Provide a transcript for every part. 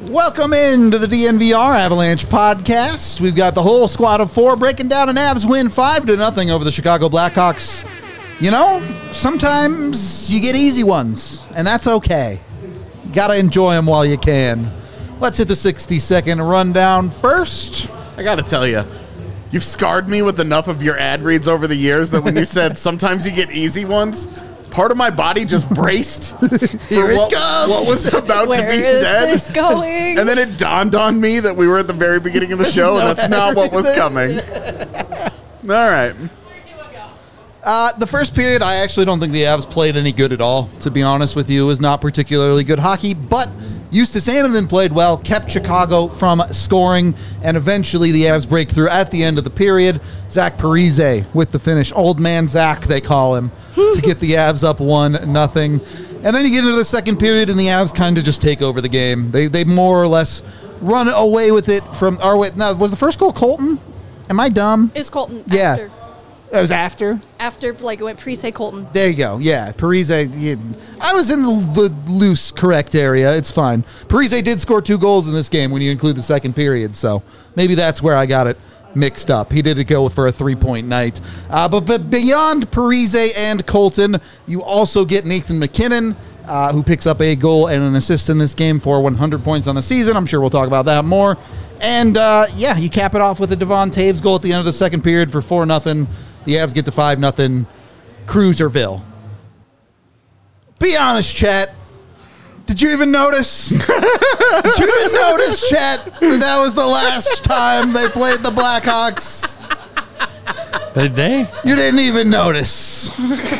Welcome into the DNVR Avalanche podcast. We've got the whole squad of four breaking down an Avs win 5-0 over the Chicago Blackhawks. You know, sometimes you get easy ones, and that's okay. Gotta enjoy them while you can. Let's hit the 60-second rundown first. I gotta tell you, you've scarred me with enough of your ad reads over the years that when you said sometimes you get easy ones, part of my body just braced Here it goes. What was about to Where be is said. this going? And then it dawned on me that we were at the very beginning of the show, and that's not what was coming. All right. The first period, I actually don't think the Avs played any good at all, to be honest with you. It was not particularly good hockey, but Justus Annunen played well, kept Chicago from scoring, and eventually the Avs break through at the end of the period. Zach Parise with the finish. Old man Zach, they call him, to get the Avs up 1-0. And then you get into the second period, and the Avs kind of just take over the game. They more or less run away with it from... Now, was the first goal Colton? Am I dumb? It was Colton. Yeah. After. It was after? After, like, it went Parise Colton. There you go. Yeah, Parise. I was in the loose correct area. It's fine. Parise did score 2 goals in this game when you include the second period, so maybe that's where I got it mixed up. He did go for a 3-point night. But beyond Parise and Colton, you also get Nathan MacKinnon, who picks up a goal and an assist in this game for 100 points on the season. I'm sure we'll talk about that more. And, you cap it off with a Devon Taves goal at the end of the second period for 4-0. The Avs get to 5-0. Cruiserville. Be honest, chat. Did you even notice? Did you even notice, chat, that was the last time they played the Blackhawks? Did they? You didn't even notice.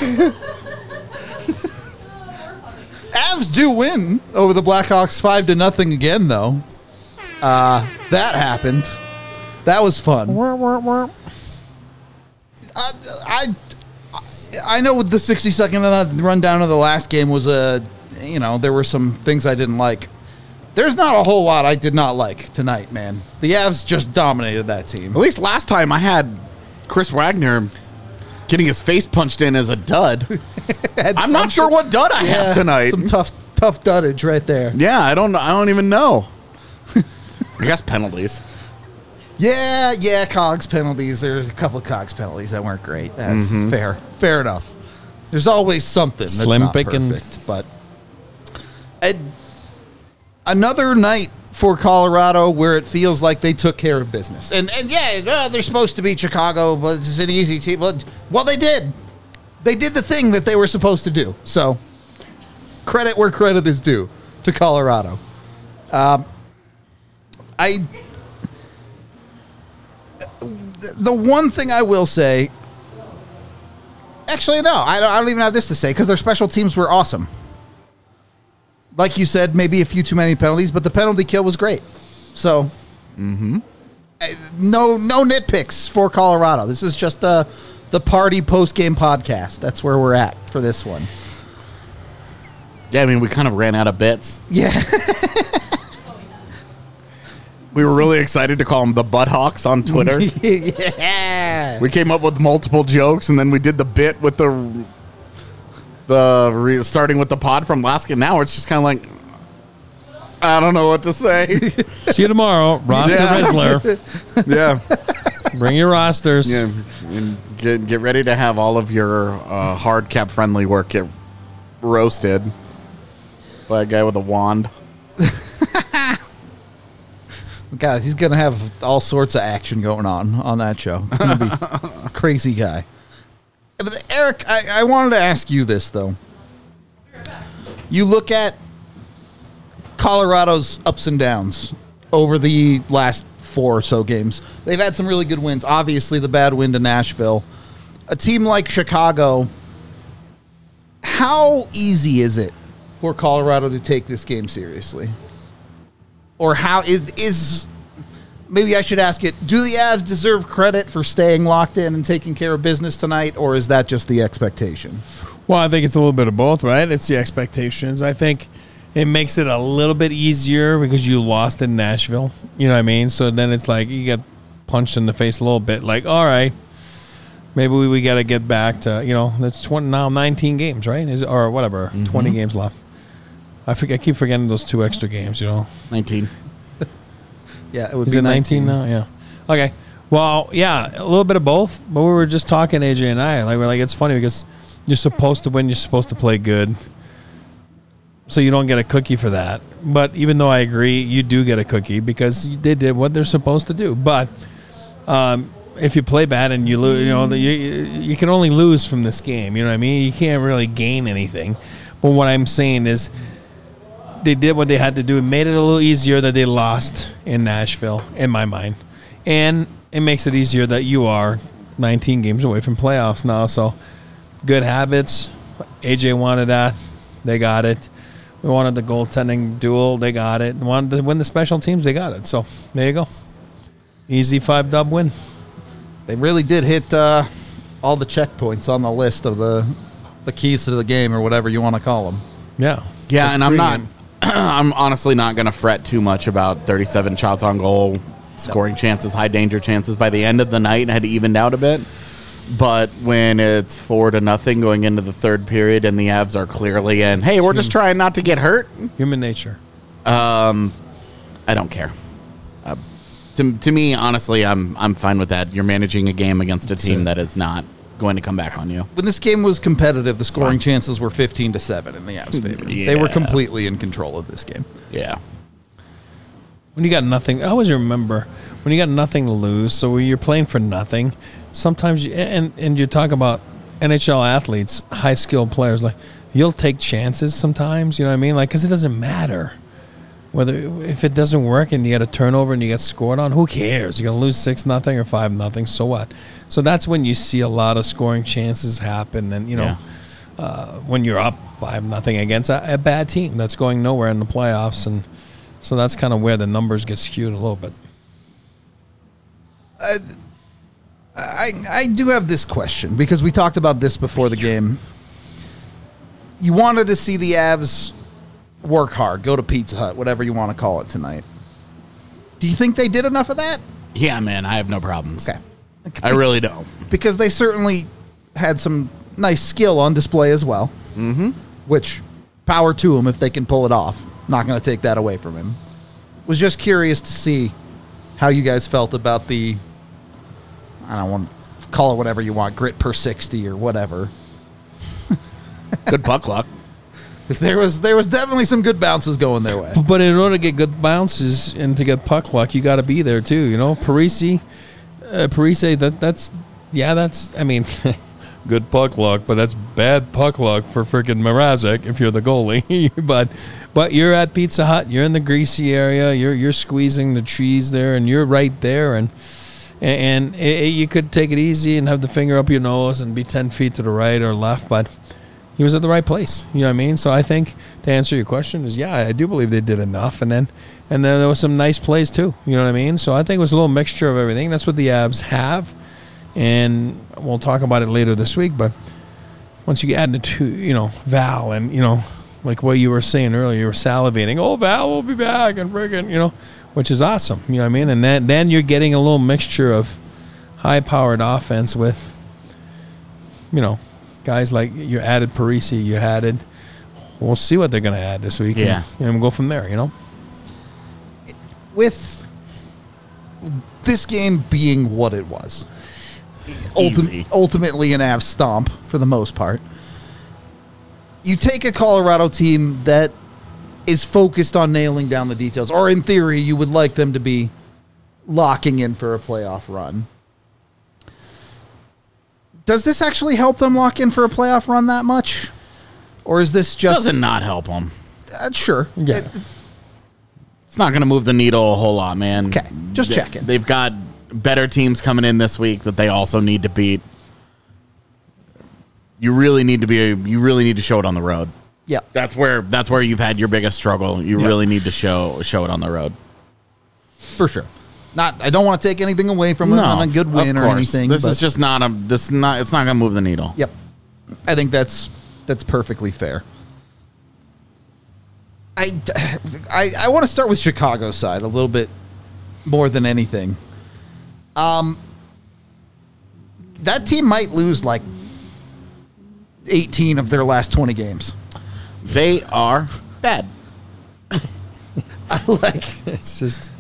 Avs do win over the Blackhawks 5-0 again, though. That happened. That was fun. I know with the 60-second rundown of the last game was there were some things I didn't like. There's not a whole lot I did not like tonight, man. The Avs just dominated that team. At least last time I had Chris Wagner getting his face punched in as a dud. I'm not sure what dud I have tonight. Some tough duddage right there. Yeah, I don't even know. I guess penalties. Yeah, Cogs penalties. There's a couple of Cogs penalties that weren't great. That's fair. Fair enough. There's always something that's Slim not pickings. perfect. But another night for Colorado where it feels like they took care of business. And they're supposed to beat Chicago, but it's an easy team. Well, they did. They did the thing that they were supposed to do. So credit where credit is due to Colorado. The one thing I will say, actually, no, I don't even have this to say because their special teams were awesome. Like you said, maybe a few too many penalties, but the penalty kill was great. So, no nitpicks for Colorado. This is just the party post-game podcast. That's where we're at for this one. Yeah, I mean, we kind of ran out of bits. Yeah. We were really excited to call them the Butthawks on Twitter. Yeah. We came up with multiple jokes, and then we did the bit with starting with the pod from last game. Now it's just kind of like, I don't know what to say. See you tomorrow. Roster Rizzler. Yeah. Bring your rosters. Yeah. And get ready to have all of your hard cap friendly work get roasted by a guy with a wand. God, he's going to have all sorts of action going on that show. It's going to be a crazy guy. But Eric, I wanted to ask you this, though. You look at Colorado's ups and downs over the last 4 or so games. They've had some really good wins. Obviously, the bad win to Nashville. A team like Chicago, how easy is it for Colorado to take this game seriously? Or how is maybe I should ask it, do the Avs deserve credit for staying locked in and taking care of business tonight, or is that just the expectation? Well, I think it's a little bit of both, right? It's the expectations. I think it makes it a little bit easier because you lost in Nashville. You know what I mean? So then it's like you get punched in the face a little bit. Like, all right, maybe we got to get back to, that's now 19 games, right? Or whatever, 20 games left. I keep forgetting those 2 extra games, 19. Yeah, it would Is be it 19 now? Yeah. Okay. Well, yeah, a little bit of both. But we were just talking, AJ and I. We're like, it's funny because you're supposed to win. You're supposed to play good. So you don't get a cookie for that. But even though I agree, you do get a cookie because they did what they're supposed to do. But if you play bad and you lose, you can only lose from this game. You know what I mean? You can't really gain anything. But what I'm saying is they did what they had to do. It made it a little easier that they lost in Nashville, in my mind. And it makes it easier that you are 19 games away from playoffs now. So good habits. AJ wanted that. They got it. We wanted the goaltending duel. They got it. Wanted to win the special teams. They got it. So there you go. Easy 5-dub win. They really did hit all the checkpoints on the list of the keys to the game or whatever you want to call them. Yeah. Yeah, and I'm honestly not going to fret too much about 37 shots on goal, scoring chances, high danger chances. By the end of the night, it had evened out a bit. But when it's 4-0 going into the third period and the Avs are clearly in, hey, we're just trying not to get hurt. Human nature. I don't care. To me, honestly, I'm fine with that. You're managing a game against a team that is not going to come back on you. When this game was competitive, the scoring chances were 15-7 in the Avs' favor. Yeah. They were completely in control of this game. Yeah. When you got nothing, I always remember when you got nothing to lose. So when you're playing for nothing, sometimes and you talk about NHL athletes, high skilled players, like you'll take chances sometimes. You know what I mean? Like because it doesn't matter whether if it doesn't work and you get a turnover and you get scored on. Who cares? You're gonna lose 6-0 or 5-0. So what? So that's when you see a lot of scoring chances happen, and when you're up 5-0 against a bad team that's going nowhere in the playoffs, and so that's kind of where the numbers get skewed a little bit. I do have this question because we talked about this before the game. You wanted to see the Avs work hard, go to Pizza Hut, whatever you want to call it tonight. Do you think they did enough of that? Yeah, man, I have no problems. Okay. I really don't. Because they certainly had some nice skill on display as well. Mm-hmm. Which, power to them if they can pull it off. Not going to take that away from him. Was just curious to see how you guys felt about the, I don't want to call it whatever you want, grit per 60 or whatever. Good puck luck. There was definitely some good bounces going their way. But in order to get good bounces and to get puck luck, you got to be there too. Parise, that's I mean, good puck luck, but that's bad puck luck for freaking Mrazek if you're the goalie. but you're at Pizza Hut, you're in the greasy area, you're squeezing the cheese there, and you're right there, and you could take it easy and have the finger up your nose and be 10 feet to the right or left, but he was at the right place. You know what I mean? So I think to answer your question is, yeah, I do believe they did enough. And then there was some nice plays too. You know what I mean? So I think it was a little mixture of everything. That's what the Avs have. And we'll talk about it later this week. But once you add the two, Val and, like what you were saying earlier, you were salivating. Oh, Val will be back and friggin', which is awesome. You know what I mean? And then you're getting a little mixture of high-powered offense with, guys like you added Parisi, you added. We'll see what they're going to add this week. Yeah, and we'll go from there. With this game being what it was, ultimately an Avs stomp for the most part. You take a Colorado team that is focused on nailing down the details, or in theory, you would like them to be locking in for a playoff run. Does this actually help them lock in for a playoff run that much? Or is this just... Does it not help them? Sure. Yeah. It's not going to move the needle a whole lot, man. Okay, just checking. They've got better teams coming in this week that they also need to beat. You really need to show it on the road. Yeah. That's where you've had your biggest struggle. You really need to show it on the road. For sure. I don't want to take anything away from it on a good win or anything. This is just it's not going to move the needle. Yep. I think that's perfectly fair. I want to start with Chicago's side a little bit more than anything. That team might lose like 18 of their last 20 games. They are bad. I like It's just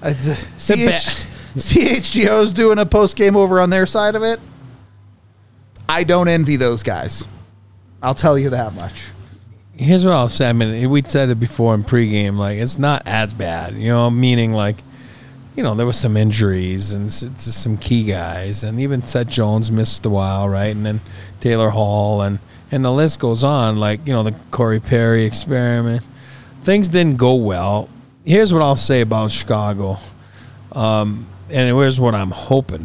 CHGO's doing a post game over on their side of it. I don't envy those guys. I'll tell you that much. here's what I'll say. I mean, we said it before in pregame. Like, it's not as bad, meaning like, there was some injuries and some key guys, and even Seth Jones missed a while, right? And then Taylor Hall, and the list goes on. Like, the Corey Perry experiment. Things didn't go well. Here's what I'll say about Chicago, and here's what I'm hoping.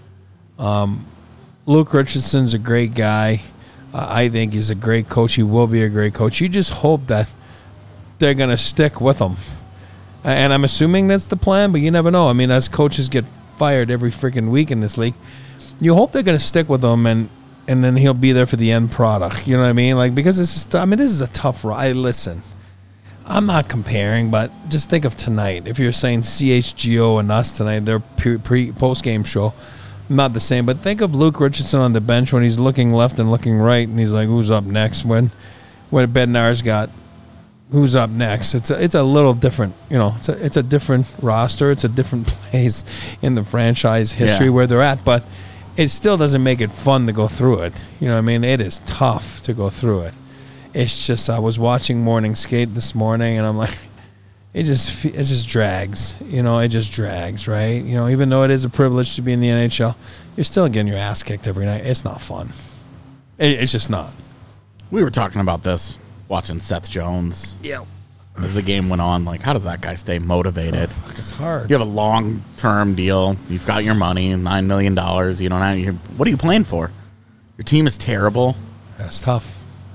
Luke Richardson's a great guy. I think he's a great coach. He will be a great coach. You just hope that they're going to stick with him. And I'm assuming that's the plan, but you never know. I mean, as coaches get fired every freaking week in this league, you hope they're going to stick with him, and then he'll be there for the end product. You know what I mean? Like, because this is a tough ride. Listen, I'm not comparing, but just think of tonight. If you're saying CHGO and us tonight, their post-game show, not the same. But think of Luke Richardson on the bench when he's looking left and looking right, and he's like, who's up next? When Bednar's got who's up next, it's a little different. It's a different roster. It's a different place in the franchise history where they're at. But it still doesn't make it fun to go through it. You know what I mean? It is tough to go through it. It's just, I was watching morning skate this morning, and I'm like, it just drags. It just drags, right? Even though it is a privilege to be in the NHL, you're still getting your ass kicked every night. It's not fun. It's just not. We were talking about this, watching Seth Jones. Yeah. As the game went on, like, how does that guy stay motivated? It's hard. You have a long-term deal. You've got your money, $9 million. You don't have. What are you playing for? Your team is terrible. That's tough.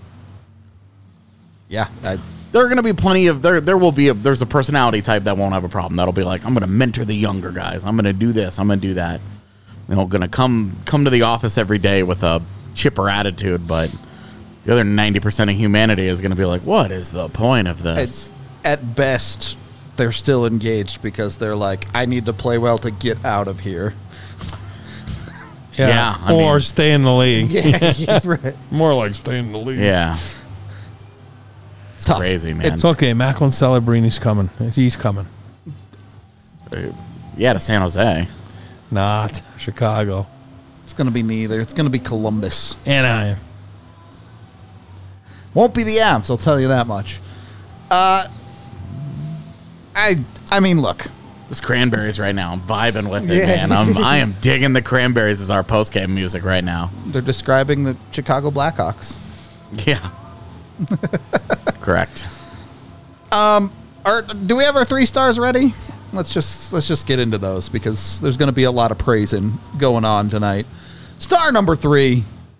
Yeah. There are going to be plenty of there's a personality type that won't have a problem. That'll be like, I'm going to mentor the younger guys. I'm going to do this. I'm going to do that. They're going to come to the office every day with a chipper attitude, but the other 90% of humanity is going to be like, what is the point of this? At best, they're still engaged because they're like, I need to play well to get out of here. Yeah, or stay in the league. Yeah, right. More like stay in the league. Yeah. It's Tough. crazy, man. It's okay. Macklin Celebrini's coming. He's coming. Yeah, to San Jose. Not Chicago. It's going to be neither. It's going to be Columbus. Anaheim. Won't be the Avs, I'll tell you that much. I mean, look. This Cranberries right now. I'm vibing with it, man. I am digging the Cranberries as our post-game music right now. They're describing the Chicago Blackhawks. Yeah. Correct. Do we have our 3 stars ready? Let's just get into those because there's going to be a lot of praising going on tonight. Star number 3.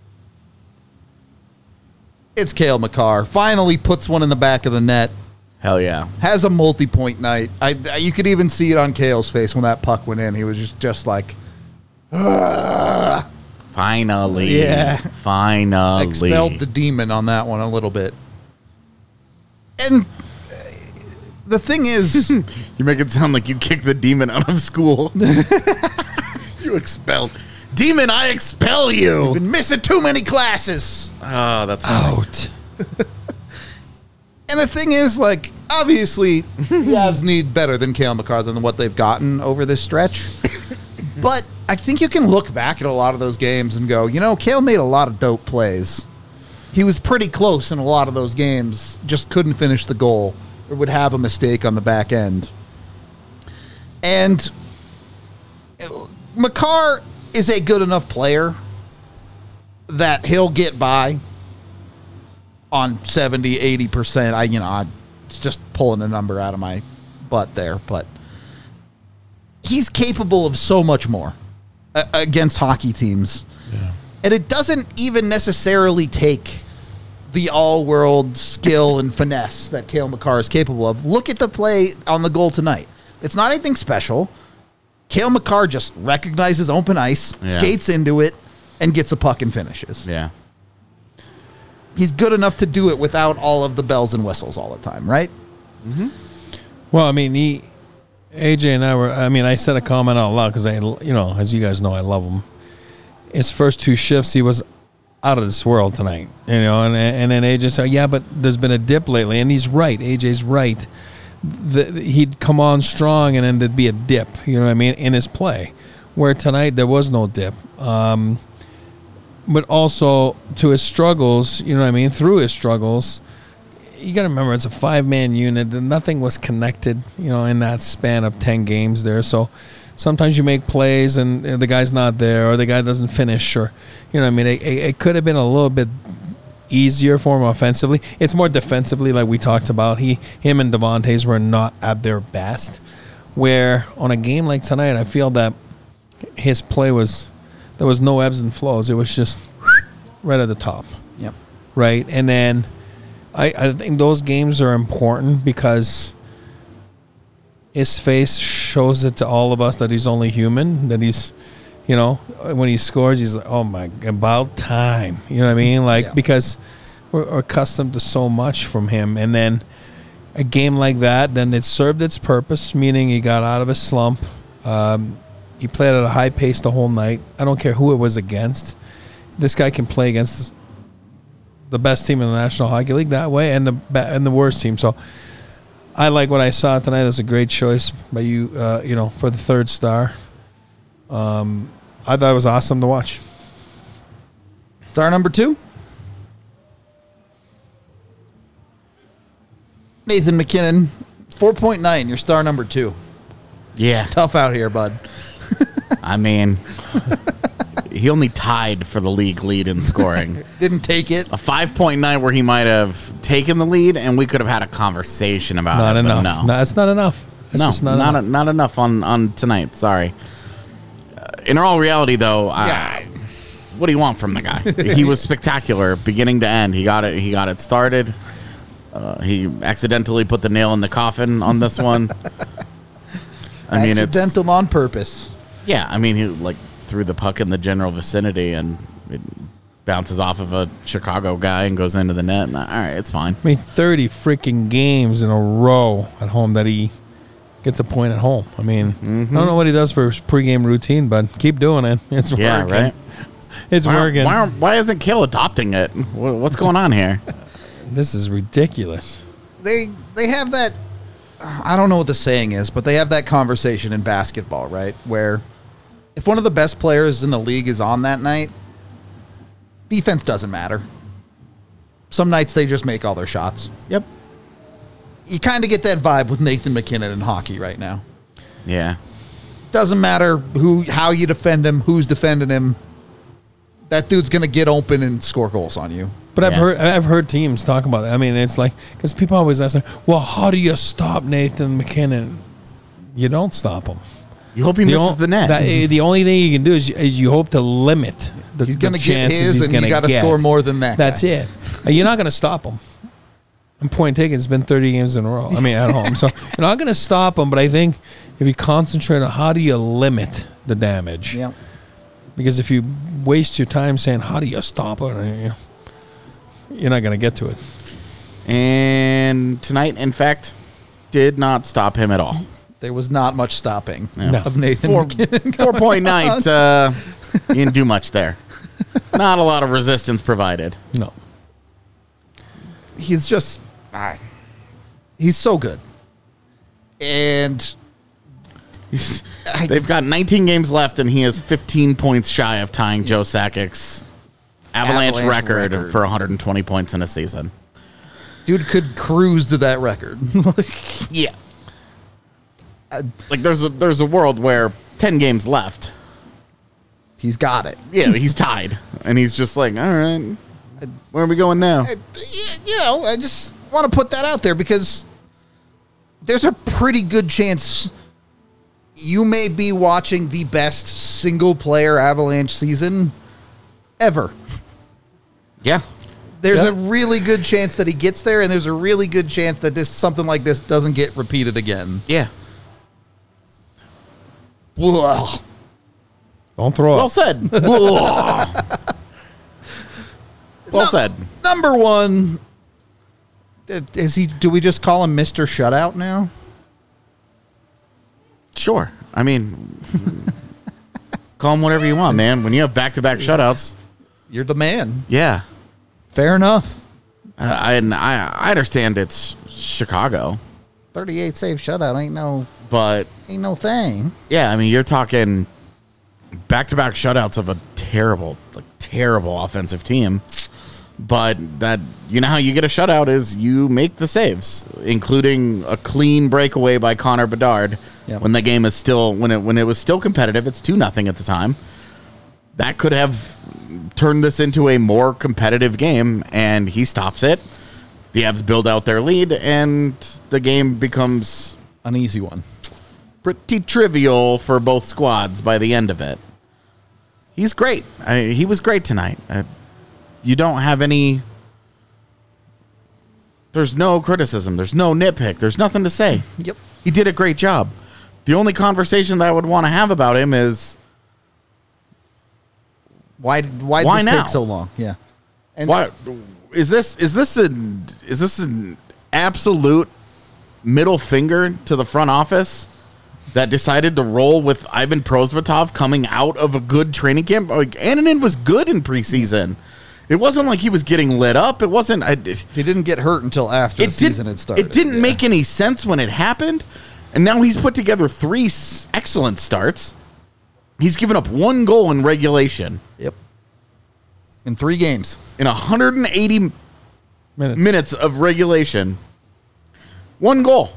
It's Cale Makar. Finally puts one in the back of the net. Hell yeah. Has a multi-point night. You could even see it on Cale's face when that puck went in. He was just like, ugh. Finally. Yeah. Finally. Expelled the demon on that one a little bit. And the thing is... You make it sound like you kicked the demon out of school. You expelled. Demon, I expel you. You've been missing too many classes. Oh, that's out. And the thing is, like, obviously, the Avs need better than Cale Makar than what they've gotten over this stretch. But I think you can look back at a lot of those games and go, Cale made a lot of dope plays. He was pretty close in a lot of those games, just couldn't finish the goal or would have a mistake on the back end. And Makar is a good enough player that he'll get by on 70, 80%. I'm just pulling a number out of my butt there, but he's capable of so much more against hockey teams. Yeah. And it doesn't even necessarily take the all-world skill and finesse that Cale Makar is capable of. Look at the play on the goal tonight. It's not anything special. Cale Makar just recognizes open ice, skates into it, and gets a puck and finishes. Yeah. He's good enough to do it without all of the bells and whistles all the time, right? Mm-hmm. Well, I mean, AJ and I said a comment out loud because as you guys know, I love him. His first 2 shifts, he was out of this world tonight, and then AJ said, yeah, but there's been a dip lately, and he's right. AJ's right. he'd come on strong and then there'd be a dip, you know what I mean, in his play. Where tonight there was no dip. But also to his struggles, you know what I mean, through his struggles, you got to remember it's a 5-man unit and nothing was connected, you know, in that span of 10 games there. So sometimes you make plays and the guy's not there or the guy doesn't finish or, you know what I mean, it could have been a little bit easier for him offensively. It's more defensively like we talked about. Him and Devontae's were not at their best. Where on a game like tonight, I feel that his play there was no ebbs and flows. It was just right at the top. Yep. Right? And then I think those games are important because his face shows it to all of us that he's only human, that he's, you know, when he scores, he's like, oh my, about time. You know what I mean? Like, because we're accustomed to so much from him. And then a game like that, then it served its purpose, meaning he got out of his slump. He played at a high pace the whole night. I don't care who it was against. This guy can play against the best team in the National Hockey League that way, and the worst team. So I like what I saw tonight. It was a great choice by you, you know, for the third star. I thought it was awesome to watch. Star number 2. Nathan MacKinnon, 4.9. Your star number 2. Yeah. Tough out here, bud. I mean, he only tied for the league lead in scoring. Didn't take it. A 5.9 where he might have taken the lead, and we could have had a conversation about Not it. enough. But No, it's not enough. It's just not enough. Not enough on tonight. Sorry. In all reality, though, what do you want from the guy? He was spectacular, beginning to end. He got it started. He accidentally put the nail in the coffin on this one. I mean, accidental on purpose. Yeah, I mean, he like threw the puck in the general vicinity and it bounces off of a Chicago guy and goes into the net. And, all right, it's fine. I mean, 30 freaking games in a row at home that he gets a point at home. I mean, I don't know what he does for his pregame routine, but keep doing it. It's working. Yeah, right? It's working. Why isn't Kill adopting it? What's going on here? This is ridiculous. They have that, I don't know what the saying is, but they have that conversation in basketball, right? Where if one of the best players in the league is on that night, defense doesn't matter. Some nights they just make all their shots. Yep. You kind of get that vibe with Nathan MacKinnon in hockey right now. Yeah. Doesn't matter how you defend him, who's defending him. That dude's going to get open and score goals on you. But Yeah. I've heard teams talk about that. I mean, it's like, because people always ask, like, well, how do you stop Nathan MacKinnon? You don't stop him. You hope he misses the net. The only thing you can do is you hope to limit the He's going to get chances his, he's and gonna you got to get. score more than that. That's guy. it. You're not going to stop him. And point taken, it's been 30 games in a row. I mean, at home. So you're not going to stop him, but I think if you concentrate on how do you limit the damage. Yeah. Because if you waste your time saying, how do you stop it? You're not going to get to it. And tonight, in fact, did not stop him at all. There was not much stopping No. of Nathan MacKinnon. 4.9. He didn't do much there. Not a lot of resistance provided. No. He's just, he's so good. And They've got 19 games left, and he is 15 points shy of tying Joe Sakic's Avalanche record for 120 points in a season. dude could cruise to that record. Yeah. Like there's a world where 10 games left. He's got it. Yeah, he's tied, and he's just like, all right, where are we going now? I just want to put that out there because there's a pretty good chance you may be watching the best single-player Avalanche season ever. Yeah. There's a really good chance that he gets there, and there's a really good chance that something like this doesn't get repeated again. Yeah. Ugh. Don't throw Well up. said. Well said. Number one, is he? Do we just call him Mr. Shutout now? Sure. I mean, call him whatever you want, man. When you have back-to-back shutouts, You're the man. yeah. Fair enough. I understand it's Chicago. 38 save shutout ain't no But thing. yeah, I mean, you're talking back-to-back shutouts of a terrible offensive team. But that, you know how you get a shutout is you make the saves, including a clean breakaway by Connor Bedard when the game is still when it was still competitive. It's 2-0 at the time. That could have turned this into a more competitive game, and he stops it. The Avs build out their lead, and the game becomes An easy one. pretty trivial for both squads by the end of it. He's great. He was great tonight. You don't have any... There's no criticism. There's no nitpick. There's nothing to say. Yep. He did a great job. The only conversation that I would want to have about him is... Why did Why this now? take so long? Yeah. And What is this an absolute middle finger to the front office that decided to roll with Ivan Prosvetov coming out of a good training camp? Like, Annunen was good in preseason. It wasn't like he was getting lit up. It wasn't. he didn't get hurt until after the season had started. It didn't make any sense when it happened, and now he's put together 3 excellent starts. He's given up 1 goal in regulation. Yep. In 3 games. In 180 minutes of regulation. 1 goal.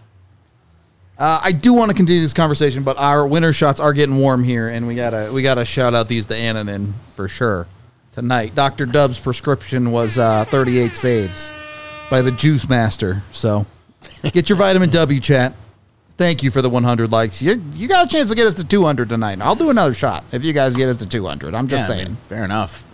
I do want to continue this conversation, but our winter shots are getting warm here, and we gotta shout out these to Annunen for sure tonight. Dr. Dub's prescription was 38 saves by the Juice Master. So get your vitamin W, chat. Thank you for the 100 likes. You got a chance to get us to 200 tonight. I'll do another shot if you guys get us to 200. I'm just saying. Man, fair enough.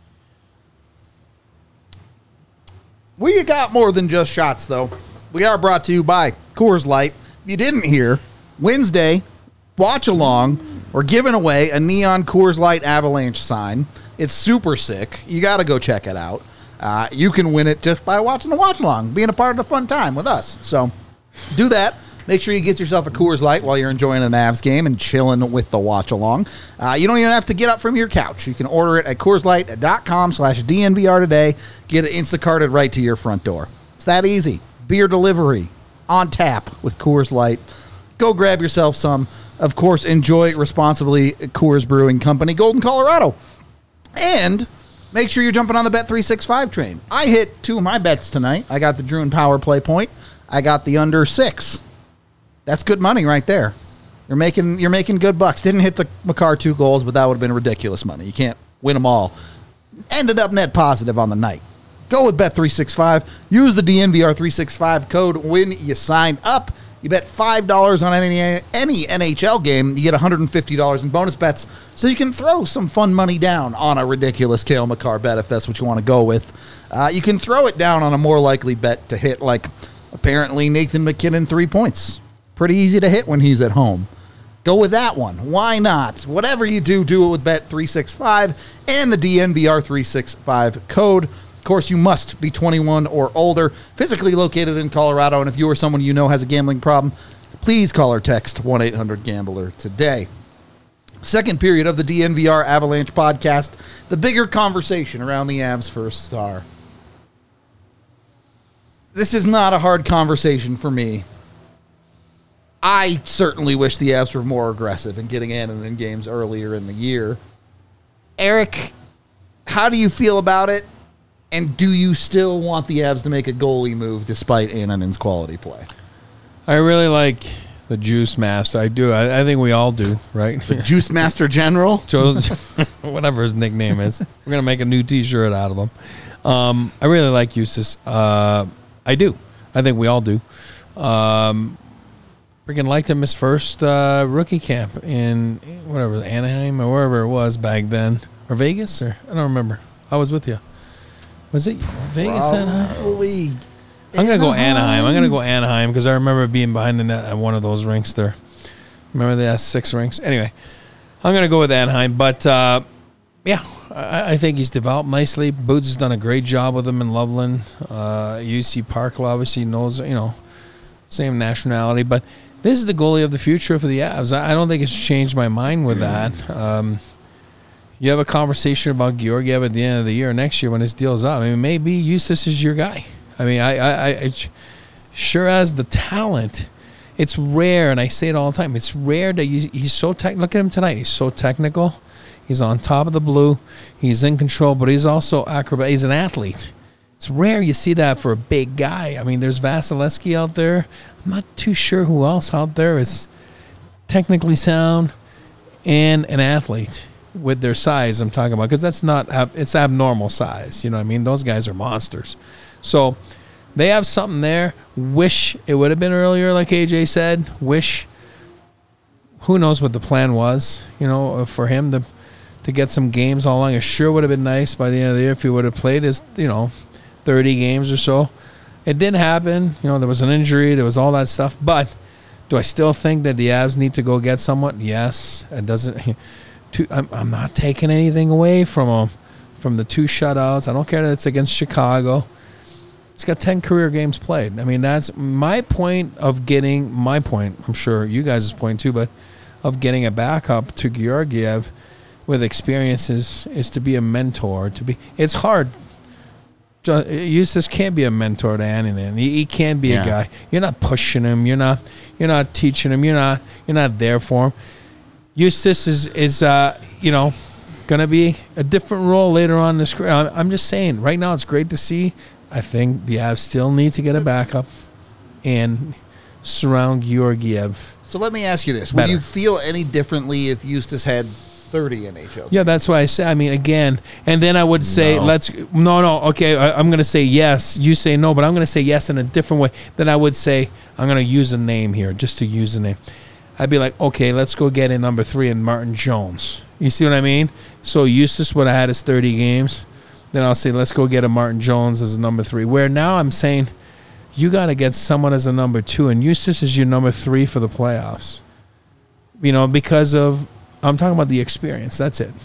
We got more than just shots, though. We are brought to you by Coors Light. If you didn't hear, Wednesday, watch along. We're giving away a neon Coors Light avalanche sign. It's super sick. You got to go check it out. You can win it just by watching the watch along, being a part of the fun time with us. So do that. Make sure you get yourself a Coors Light while you're enjoying an Avs game and chilling with the watch along. You don't even have to get up from your couch. You can order it at CoorsLight.com/DNVR today. Get it Instacarted right to your front door. It's that easy. Beer delivery on tap with Coors Light. Go grab yourself some. Of course, enjoy responsibly. Coors Brewing Company, Golden, Colorado. And make sure you're jumping on the Bet365 train. I hit 2 of my bets tonight. I got the Druin Power Play point. I got the under 6. That's good money right there. You're making good bucks. Didn't hit the Makar 2 goals, but that would have been ridiculous money. You can't win them all. Ended up net positive on the night. Go with Bet365. Use the DNVR365 code when you sign up. You bet $5 on any NHL game, you get $150 in bonus bets, so you can throw some fun money down on a ridiculous Cale Makar bet if that's what you want to go with. You can throw it down on a more likely bet to hit, like apparently Nathan McKinnon 3 points. Pretty easy to hit when he's at home. Go with that one. Why not? Whatever you do, do it with Bet365 and the DNVR365 code. Of course, you must be 21 or older, physically located in Colorado, and if you or someone you know has a gambling problem, please call or text 1-800-GAMBLER today. Second period of the DNVR Avalanche podcast, the bigger conversation around the Avs' first star. This is not a hard conversation for me. I certainly wish the Avs were more aggressive in getting in games earlier in the year. Eric, how do you feel about it? And do you still want the Avs to make a goalie move despite Annunen's quality play? I really like the Juice Master. I do. I think we all do, right? The Juice Master General? Joe, whatever his nickname is. We're going to make a new T-shirt out of him. I really like Eustace. I do. I think we all do. Freaking liked him his first rookie camp in whatever, Anaheim or wherever it was back then. Or Vegas? Or I don't remember. I was with you. Was it Vegas? Probably. I'm going to go Anaheim. I'm going to go Anaheim because I remember being behind the net at one of those rinks there. Remember they had 6 rinks? Anyway, I'm going to go with Anaheim. But, yeah, I think he's developed nicely. Boots has done a great job with him in Loveland. UC Parkle obviously knows, same nationality. But this is the goalie of the future for the Avs. I don't think it's changed my mind with that. You have a conversation about Georgiev at the end of the year, next year when his deal's up. I mean, maybe Eustace is your guy. I mean, I sure has the talent. It's rare, and I say it all the time. It's rare that he's so look at him tonight. He's so technical. He's on top of the blue. He's in control, but he's also acrobat. He's an athlete. It's rare you see that for a big guy. I mean, there's Vasilevsky out there. I'm not too sure who else out there is technically sound and an athlete with their size I'm talking about, because that's not it's abnormal size. You know what I mean? Those guys are monsters. So they have something there. Wish it would have been earlier, like AJ said. Wish, who knows what the plan was, for him to get some games all along. It sure would have been nice by the end of the year if he would have played his, 30 games or so. It didn't happen. There was an injury. There was all that stuff. But do I still think that the Avs need to go get someone? Yes. It doesn't. I'm not taking anything away from him, from the 2 shutouts. I don't care that it's against Chicago. He's got 10 career games played. I mean, that's my point of getting my point. I'm sure you guys' point too, but of getting a backup to Georgiev with experiences is to be a mentor. It's hard. Eustace can't be a mentor to Annunen. He can't be a guy. You're not pushing him. You're not teaching him. You're not there for him. Eustace is going to be a different role later on in this career. I'm just saying, right now it's great to see. I think the Avs still need to get a backup and surround Georgiev. So let me ask you this. Better. Would you feel any differently if Eustace had 30 NHL? Yeah, that's why I say, again, and then I would say, okay, I'm going to say yes. You say no, but I'm going to say yes in a different way. Then I would say, I'm going to use a name here, just to use a name. I'd be like, okay, let's go get in number 3 in Martin Jones. You see what I mean? So Eustace would have had his 30 games. Then I'll say, let's go get a Martin Jones as a number 3. Where now I'm saying, you got to get someone as a number 2, and Eustace is your number 3 for the playoffs. Because of, I'm talking about the experience. That's it.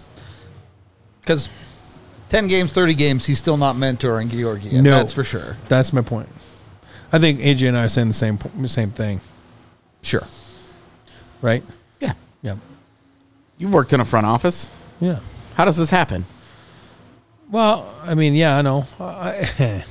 Because 10 games, 30 games, he's still not mentoring Georgiev. No. That's for sure. That's my point. I think AJ and I are saying the same thing. Sure. Right? Yeah. Yeah. You've worked in a front office. Yeah. How does this happen? Well, I know. I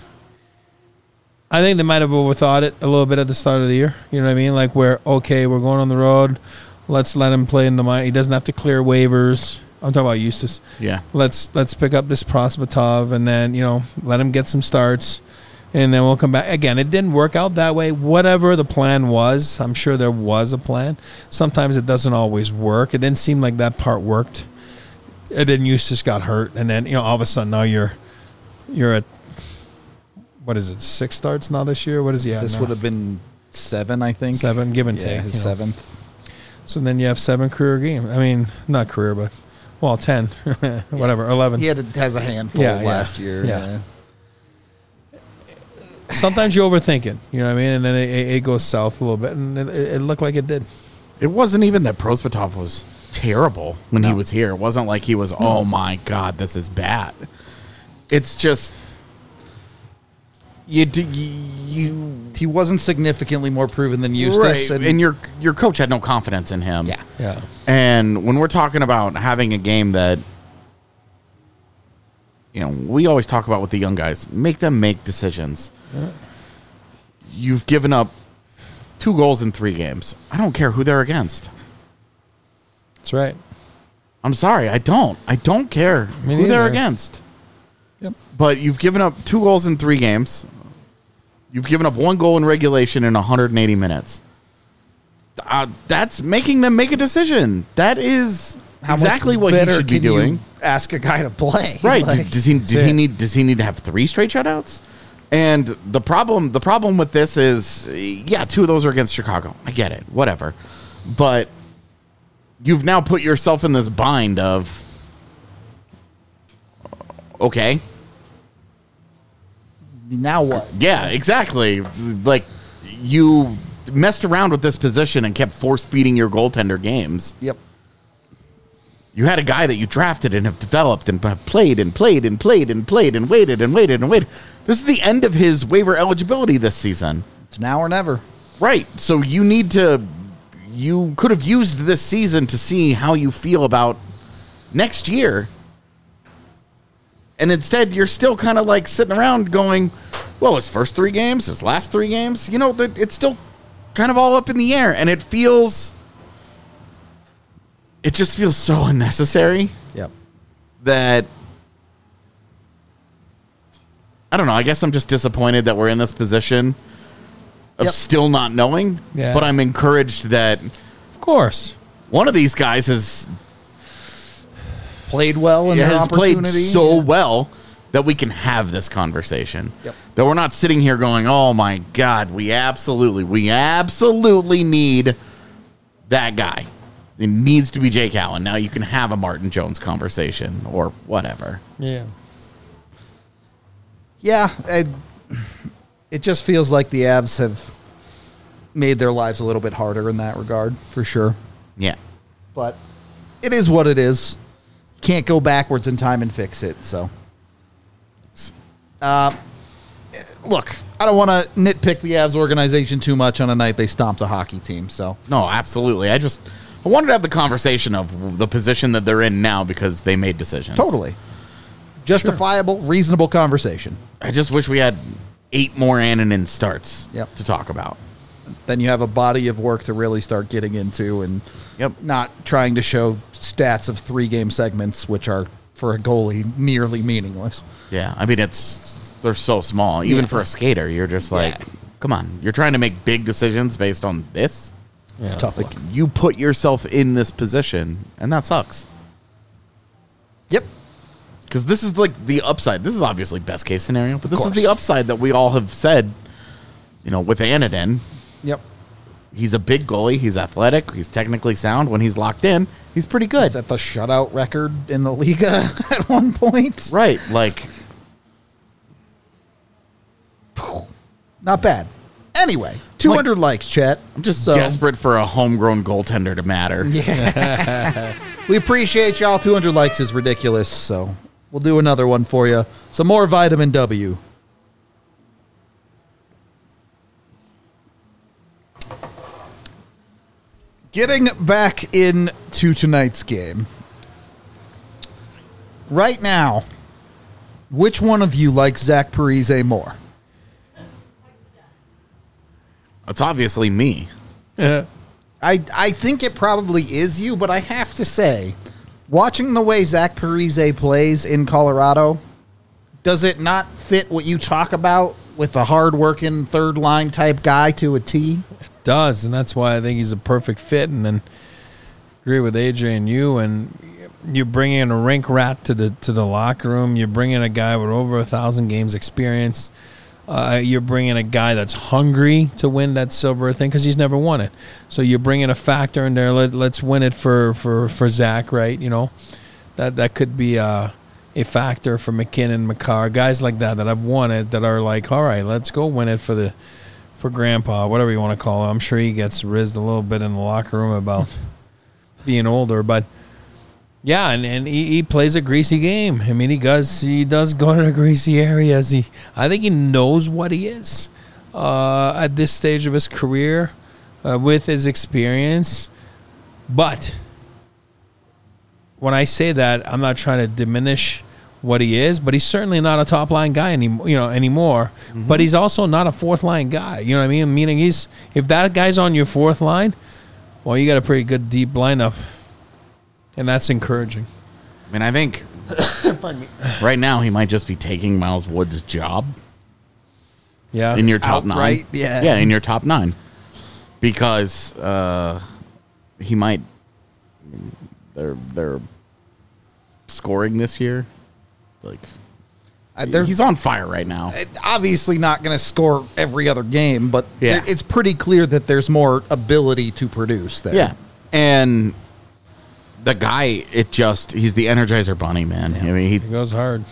think they might have overthought it a little bit at the start of the year. You know what I mean? Like, we're going on the road. Let's let him play in the mind. He doesn't have to clear waivers. I'm talking about Eustace. Yeah. Let's pick up this Prosvetov and then, let him get some starts. And then we'll come back. Again, it didn't work out that way. Whatever the plan was, I'm sure there was a plan. Sometimes it doesn't always work. It didn't seem like that part worked. And then Eustace got hurt. And then, all of a sudden now you're at, what is it, 6 starts now this year? What is he at This now? would have been 7, I think. 7, give and take. His 7th. So then you have 7 career games. I mean, not career, but, 10. Whatever, 11. He has a handful last year. Yeah. Sometimes you overthink it, you know what I mean? And then it goes south a little bit, and it looked like it did. It wasn't even that Prosvetov was terrible when he was here. It wasn't like he was, oh my God, this is bad. It's just he wasn't significantly more proven than Eustace. Right. And your coach had no confidence in him. Yeah. And when we're talking about having a game that, we always talk about with the young guys, make them make decisions. Yeah. You've given up 2 goals in 3 games. I don't care who they're against. That's right. I'm sorry, I don't. I don't care who they're against. Yep. But you've given up 2 goals in 3 games. You've given up 1 goal in regulation in 180 minutes. That's making them make a decision. That is exactly what he should be doing. Ask a guy to play. Right. Does he need to have 3 straight shutouts? And the problem with this is, 2 of those are against Chicago. I get it. Whatever. But you've now put yourself in this bind of, okay, now what? Yeah, exactly. Like, you messed around with this position and kept force feeding your goaltender games. Yep. You had a guy that you drafted and have developed and have played and played and played and played and waited and waited and waited. This is the end of his waiver eligibility this season. It's now or never. Right. So you could have used this season to see how you feel about next year. And instead, you're still kind of like sitting around going, well, his first 3 games, his last 3 games, it's still kind of all up in the air, and it just feels so unnecessary. Yep. That I don't know. I guess I'm just disappointed that we're in this position of still not knowing. Yeah. But I'm encouraged that Of course. one of these guys has Played well in their played opportunity. so well that we can have this conversation. Yep. That we're not sitting here going, "Oh my God, we absolutely need that guy. It needs to be Jake Allen." Now you can have a Martin Jones conversation or whatever. Yeah. Yeah, it just feels like the Avs have made their lives a little bit harder in that regard, for sure. Yeah. But it is what it is. Can't go backwards in time and fix it. So, look, I don't want to nitpick the Avs organization too much on a night they stomped a hockey team. So, No, absolutely. I wanted to have the conversation of the position that they're in now because they made decisions. totally justifiable, reasonable conversation. I just wish we had 8 more Annunen starts Yep. to talk about. Then you have a body of work to really start getting into and not trying to show stats of 3-game segments, which are, for a goalie, nearly meaningless. Yeah, I mean, they're so small. Even for a skater, you're just like, come on. You're trying to make big decisions based on this? It's tough. Like, you put yourself in this position, and that sucks. Yep. Because this is like the upside. This is obviously best case scenario, but this is course. the upside that we all have said, with Annunen. Yep. He's a big goalie. He's athletic. He's technically sound. When he's locked in, he's pretty good. Is that the shutout record in the Liga at one point? Right. Like, Not bad. Anyway, 200 likes, chat. I'm just desperate for a homegrown goaltender to matter. Yeah. We appreciate y'all. 200 likes is ridiculous, so we'll do another one for you. Some more vitamin W. Getting back into tonight's game. Right now, which one of you likes Zach Parise more? It's obviously me. I think it probably is you, but I have to say, watching the way Zach Parise plays in Colorado, does it not fit what you talk about with a hard-working third-line type guy to a T? It does, and that's why I think he's a perfect fit. And then agree with AJ and you. And you bring in a rink rat to the locker room. You bring in a guy with over 1,000 games experience. You're bringing a guy that's hungry to win that silver thing because he's never won it. So you bring in a factor in there. Let's win it for Zach, right? That could be a factor for McKinnon, Makar, guys like that have won it that are like, all right, let's go win it for Grandpa, whatever you want to call it. I'm sure he gets rizzed a little bit in the locker room about being older, but. Yeah, and he plays a greasy game. I mean, he does go to the greasy areas. I think he knows what he is at this stage of his career with his experience. But when I say that, I'm not trying to diminish what he is, but he's certainly not a top line guy anymore. Mm-hmm. But he's also not a fourth line guy. You know what I mean? Meaning if that guy's on your fourth line, well, you got a pretty good deep lineup. And that's encouraging. I mean, I think right now he might just be taking Miles Wood's job. Yeah. In your top outright, 9. yeah. Yeah, in your top 9. Because he might they're scoring this year. Like he's on fire right now. Obviously not going to score every other game, but Yeah. it's pretty clear that there's more ability to produce there. Yeah. And the guy, he's the Energizer Bunny, man. Yeah. I mean, He goes hard.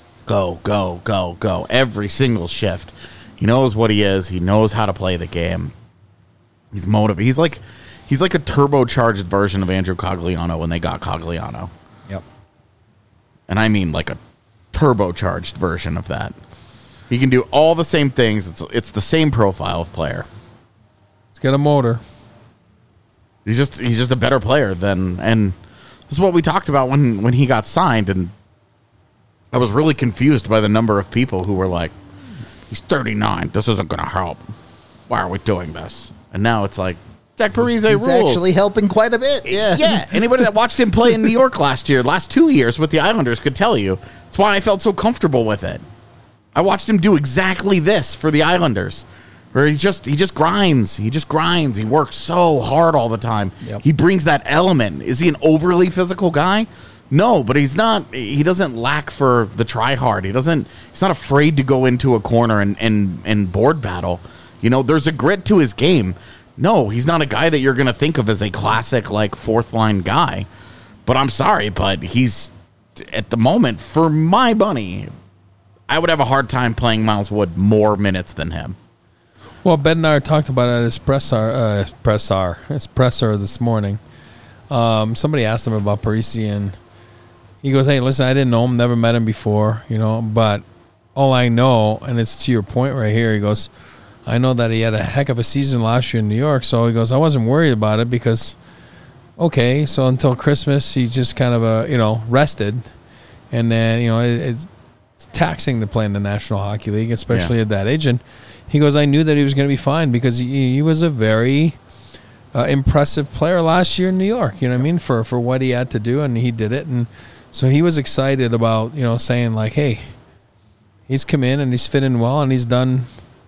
go every single shift. He knows what he is. He knows how to play the game. He's motivated. He's like a turbocharged version of Andrew Cogliano when they got Cogliano. Yep. And I mean like a turbocharged version of that. He can do all the same things. It's the same profile of player. He's got a motor. He's just a better player and this is what we talked about when he got signed, and I was really confused by the number of people who were like, he's 39. This isn't going to help. Why are we doing this? And now it's like, Zach Parise rules. He's actually helping quite a bit. Yeah. Yeah. Anybody that watched him play in New York last 2 years with the Islanders could tell you. That's why I felt so comfortable with it. I watched him do exactly this for the Islanders, where he just grinds. He just grinds. He works so hard all the time. Yep. He brings that element. Is he an overly physical guy? No, but he's not. He doesn't lack for the try hard. He's not afraid to go into a corner and board battle. You know, there's a grit to his game. No, he's not a guy that you're going to think of as a classic, like, fourth line guy. But I'm sorry, but he's, at the moment, for my money, I would have a hard time playing Miles Wood more minutes than him. Well, Bednar talked about it at his presser this morning. Somebody asked him about Parise, and he goes, hey, listen, I didn't know him, never met him before, you know, but all I know, and it's to your point right here, he goes, I know that he had a heck of a season last year in New York, so he goes, I wasn't worried about it because, okay, so until Christmas, he just kind of, rested, and then, it's taxing to play in the National Hockey League, especially at that age, and he goes, I knew that he was going to be fine because he was a very impressive player last year in New York, you know what I mean, for what he had to do, and he did it, and so he was excited about, saying like, hey, he's come in and he's fit in well and he's done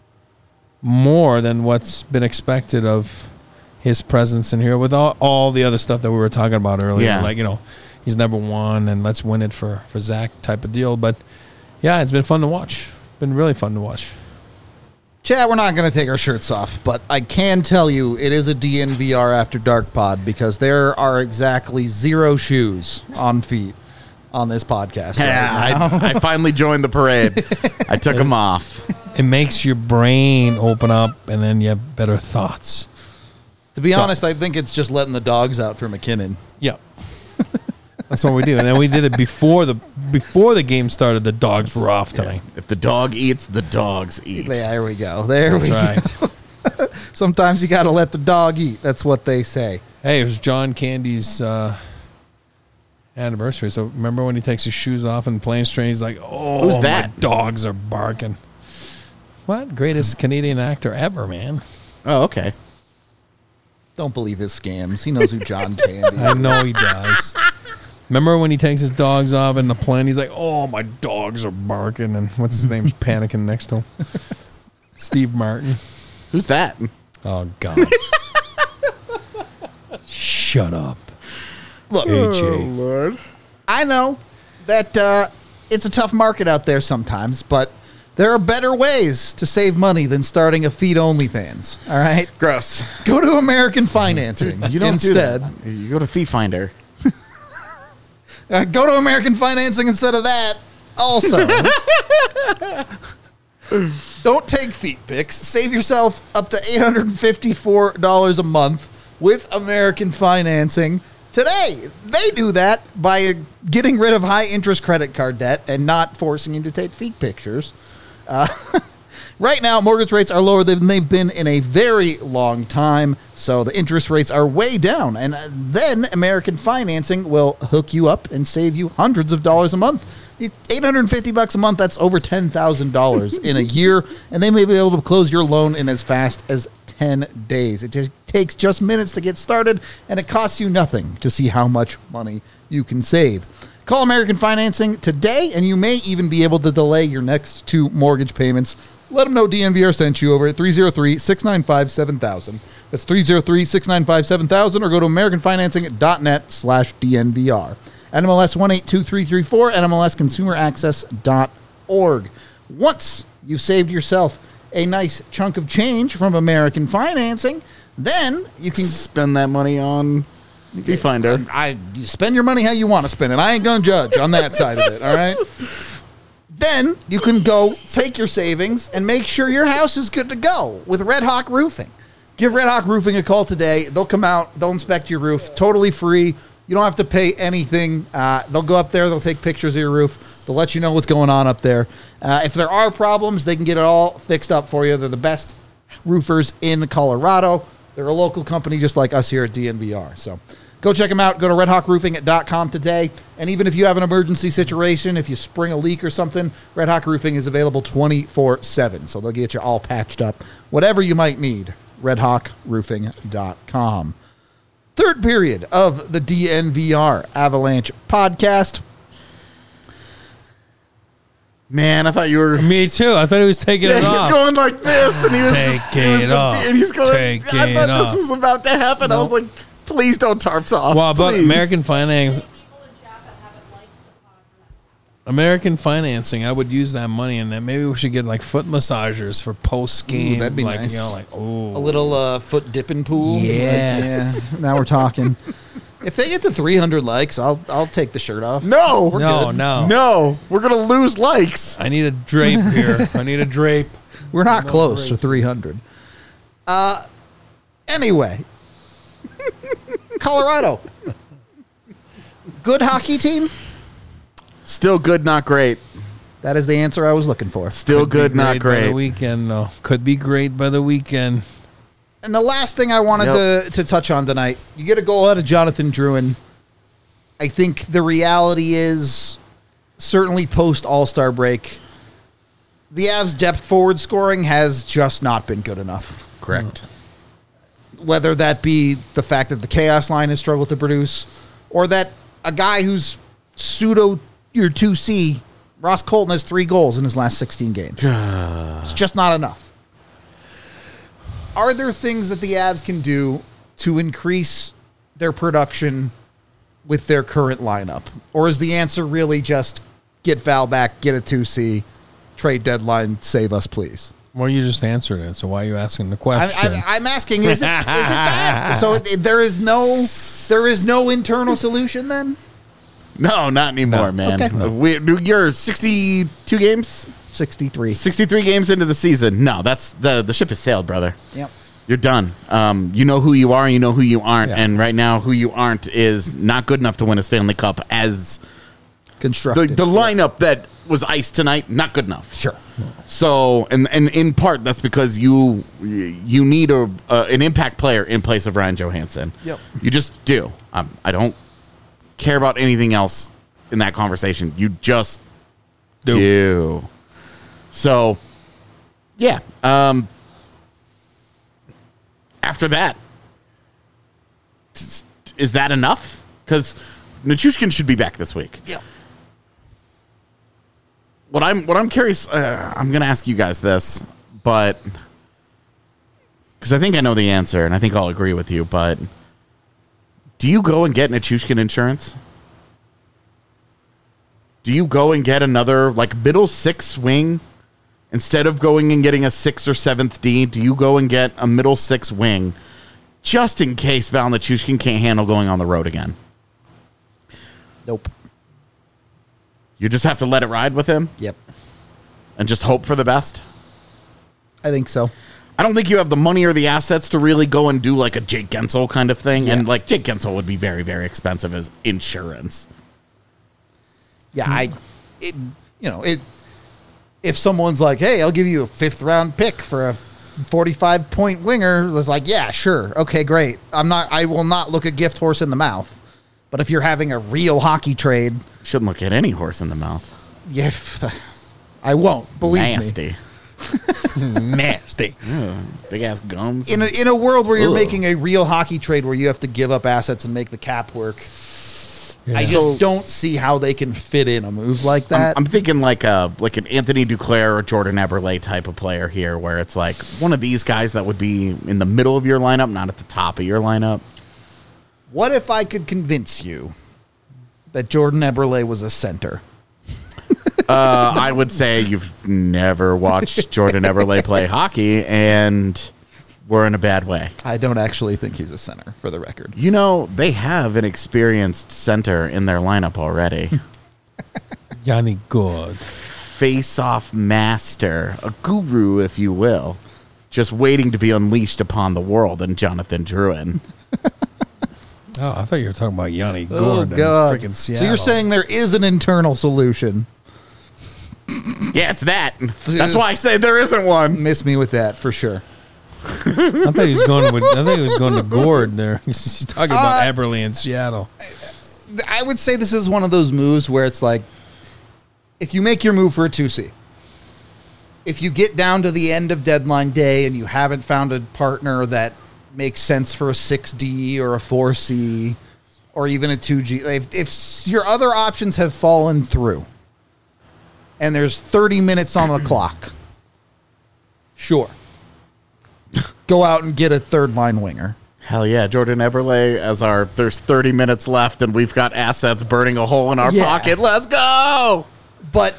more than what's been expected of his presence in here with all the other stuff that we were talking about earlier. Yeah. Like, he's never won and let's win it for Zach type of deal. But, yeah, it's been fun to watch. Been really fun to watch. Chad, we're not going to take our shirts off, but I can tell you it is a DNVR After Dark pod because there are exactly 0 shoes on feet on this podcast. Yeah, right now. I finally joined the parade. I took them off. It makes your brain open up, and then you have better thoughts. To be honest, I think it's just letting the dogs out for McKinnon. Yep. That's what we do. And then we did it before the game started. The dogs were off tonight. If the dog eats, the dogs eat. There we go. There we That's go. right. Sometimes you got to let the dog eat. That's what they say. Hey, it was John Candy's anniversary. So remember when he takes his shoes off and playing straight, he's like, oh, Who's that? my dogs are barking. What? Greatest Canadian actor ever, man. Oh, okay. Don't believe his scams. He knows who John Candy is. I know he does. Remember when he takes his dogs off in the plane? He's like, oh, my dogs are barking. And what's his name's panicking next to him? Steve Martin. Who's that? Oh, God. Shut up. Look, AJ. Lord. I know that it's a tough market out there sometimes, but there are better ways to save money than starting a feed OnlyFans. All right? Gross. Go to American Financing You don't instead. do that. You go to Fee Finder. Go to American Financing instead of that. Also, don't take feet pics. Save yourself up to $854 a month with American Financing today. They do that by getting rid of high-interest credit card debt and not forcing you to take feet pictures. Right now, mortgage rates are lower than they've been in a very long time, so the interest rates are way down. And then American Financing will hook you up and save you hundreds of dollars a month. $850 a month, that's over $10,000 in a year, and they may be able to close your loan in as fast as 10 days. It just takes just minutes to get started, and it costs you nothing to see how much money you can save. Call American Financing today, and you may even be able to delay your next 2 mortgage payments. Let them know DNVR sent you over at 303-695-7000. That's 303-695-7000, or go to AmericanFinancing.net/DNVR. NMLS 182334, NMLSConsumerAccess.org. Once you've saved yourself a nice chunk of change from American Financing, then you can Spend that money on Fee Finder. you spend your money how you want to spend it. I ain't going to judge on that side of it, all right? Then you can go take your savings and make sure your house is good to go with Red Hawk Roofing. Give Red Hawk Roofing a call today. They'll come out. They'll inspect your roof totally free. You don't have to pay anything. They'll go up there. They'll take pictures of your roof. They'll let you know what's going on up there. If there are problems, they can get it all fixed up for you. They're the best roofers in Colorado. They're a local company just like us here at DNVR. So Go check them out. Go to redhawkroofing.com today. And even if you have an emergency situation, if you spring a leak or something, Red Hawk Roofing is available 24/7. So they'll get you all patched up. Whatever you might need, redhawkroofing.com. Third period of the DNVR Avalanche podcast. Man, I thought you were. Me too. I thought he was taking it off. He's going like this, and he was Take it off. And he's going. Take I it thought off. this was about to happen. I was like, please don't tarps off. Well, but please. American financing, I would use that money, and then maybe we should get like foot massagers for post game. That'd be like, nice. You know, like A little foot dipping pool. Yes. Like, yeah, now we're talking. If they get to 300 likes, I'll take the shirt off. No, No. We're gonna lose likes. I need a drape here. I need a drape. We're not close to 300. Anyway, Colorado, good hockey team. Still good, not great. That is the answer I was looking for. Still good, not By the great. weekend, though. Could be great by the weekend. And the last thing I wanted to touch on tonight, you get a goal out of Jonathan Drouin. I think the reality is, certainly post All-Star break, the Avs' depth forward scoring has just not been good enough. Correct. Whether that be the fact that the Chaos line has struggled to produce, or that a guy who's pseudo your 2C, Ross Colton, has 3 goals in his last 16 games. It's just not enough. Are there things that the Avs can do to increase their production with their current lineup? Or is the answer really just get Val back, get a 2C, trade deadline, save us, please? Well, you just answered it, so why are you asking the question? I'm asking, is it that? So there is no internal solution then? No, not anymore, man. Okay. You're 62 games? 63. 63 games into the season. No, that's the ship has sailed, brother. Yep. You're done. You know who you are, and you know who you aren't. Yeah. And right now, who you aren't is not good enough to win a Stanley Cup as Constructed. the lineup that was iced tonight, not good enough. Sure. So, and in part, that's because you need an impact player in place of Ryan Johansson. Yep. You just do. I don't care about anything else in that conversation. You just do. So, yeah. After that, is that enough? Because Nichushkin should be back this week. Yep. What I'm curious, I'm going to ask you guys this, but because I think I know the answer, and I think I'll agree with you, but do you go and get Nichushkin insurance? Do you go and get another, like, middle 6 wing? Instead of going and getting a 6th or 7th D, do you go and get a middle 6 wing just in case Val Nichushkin can't handle going on the road again? Nope. You just have to let it ride with him? Yep. And just hope for the best? I think so. I don't think you have the money or the assets to really go and do like a Jake Gensel kind of thing. Yeah. And like Jake Gensel would be very, very expensive as insurance. Yeah, if someone's like, hey, I'll give you a 5th round pick for a 45-point winger, it's like, yeah, sure. Okay, great. I will not look a gift horse in the mouth. But if you're having a real hockey trade, Shouldn't look at any horse in the mouth. yeah, I won't. Believe me. Nasty. Nasty. Big ass gums. In a world where you're Ugh. making a real hockey trade where you have to give up assets and make the cap work, I just So- don't see how they can fit in a move like that. I'm thinking like an Anthony Duclair or Jordan Eberle type of player here, where it's like one of these guys that would be in the middle of your lineup, not at the top of your lineup. What if I could convince you that Jordan Eberle was a center? I would say you've never watched Jordan Eberle play hockey, and we're in a bad way. I don't actually think he's a center, for the record. You know, they have an experienced center in their lineup already. Yanni Good. Face-off master, a guru, if you will, just waiting to be unleashed upon the world, and Jonathan Drouin. Oh, I thought you were talking about Yanni Good. Oh, God. Freaking So Seattle. you're saying there is an internal solution. Yeah, it's that. That's why I say there isn't one. Miss me with that, for sure. I thought he was going to Gord there. He's talking about Eberle in Seattle. I would say this is one of those moves where it's like, if you make your move for a 2C, if you get down to the end of deadline day and you haven't found a partner that makes sense for a 6D or a 4C or even a 2G, if your other options have fallen through and there's 30 minutes on the clock, sure. Go out and get a third line winger. Hell yeah, Jordan Eberle as there's 30 minutes left and we've got assets burning a hole in our pocket. Let's go! But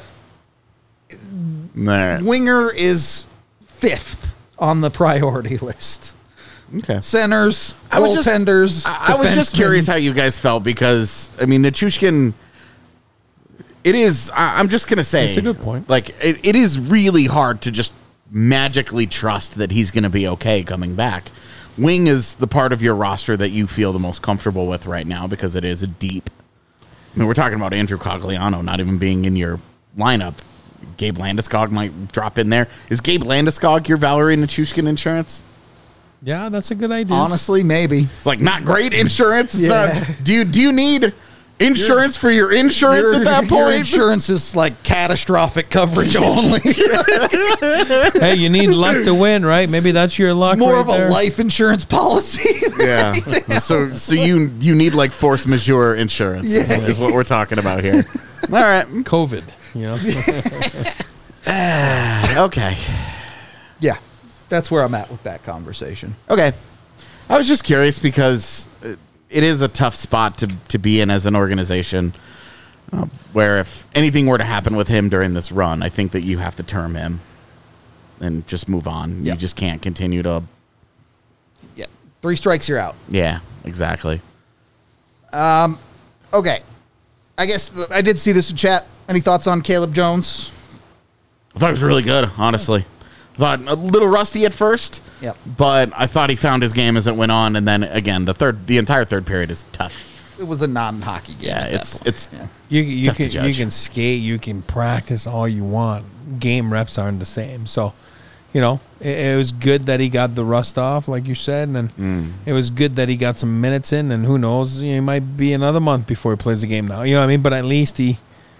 Nah. winger is 5th on the priority list. Okay. Centers, goaltenders. I was just curious how you guys felt because, I mean, Nichushkin, it is, I'm just going to say. It's a good point. Like, it is really hard to just magically trust that he's going to be okay coming back. Wing is the part of your roster that you feel the most comfortable with right now because it is a deep. I mean, we're talking about Andrew Cogliano not even being in your lineup. Gabe Landeskog might drop in there. Is Gabe Landeskog your Valerie Nichushkin insurance? Yeah, that's a good idea. Honestly, maybe. It's like not great insurance. It's Yeah. not. Do you need insurance for your insurance at that Your point? insurance is like catastrophic coverage only. Hey, you need luck to win, right? Maybe that's your luck. More right of a there. life insurance policy. Yeah. So you need like force majeure insurance is what we're talking about here. All right. COVID. You know. Okay. Yeah, that's where I'm at with that conversation. Okay. I was just curious because it is a tough spot to be in as an organization where if anything were to happen with him during this run, I think that you have to term him and just move on. Yep. You just can't continue to. Yeah, 3 strikes, you're out. Yeah, exactly. Okay, I guess I did see this in chat. Any thoughts on Caleb Jones? I thought it was really good, honestly. I thought a little rusty at first. Yep. But I thought he found his game as it went on, and then again, the entire third period is tough. It was a non-hockey game. Yeah, at that point. it's You Tough to can judge. skate, you can practice all you want. Game reps aren't the same. So, it was good that he got the rust off, like you said, and it was good that he got some minutes in. And who knows, he might be another month before he plays the game now. You know what I mean? But at least he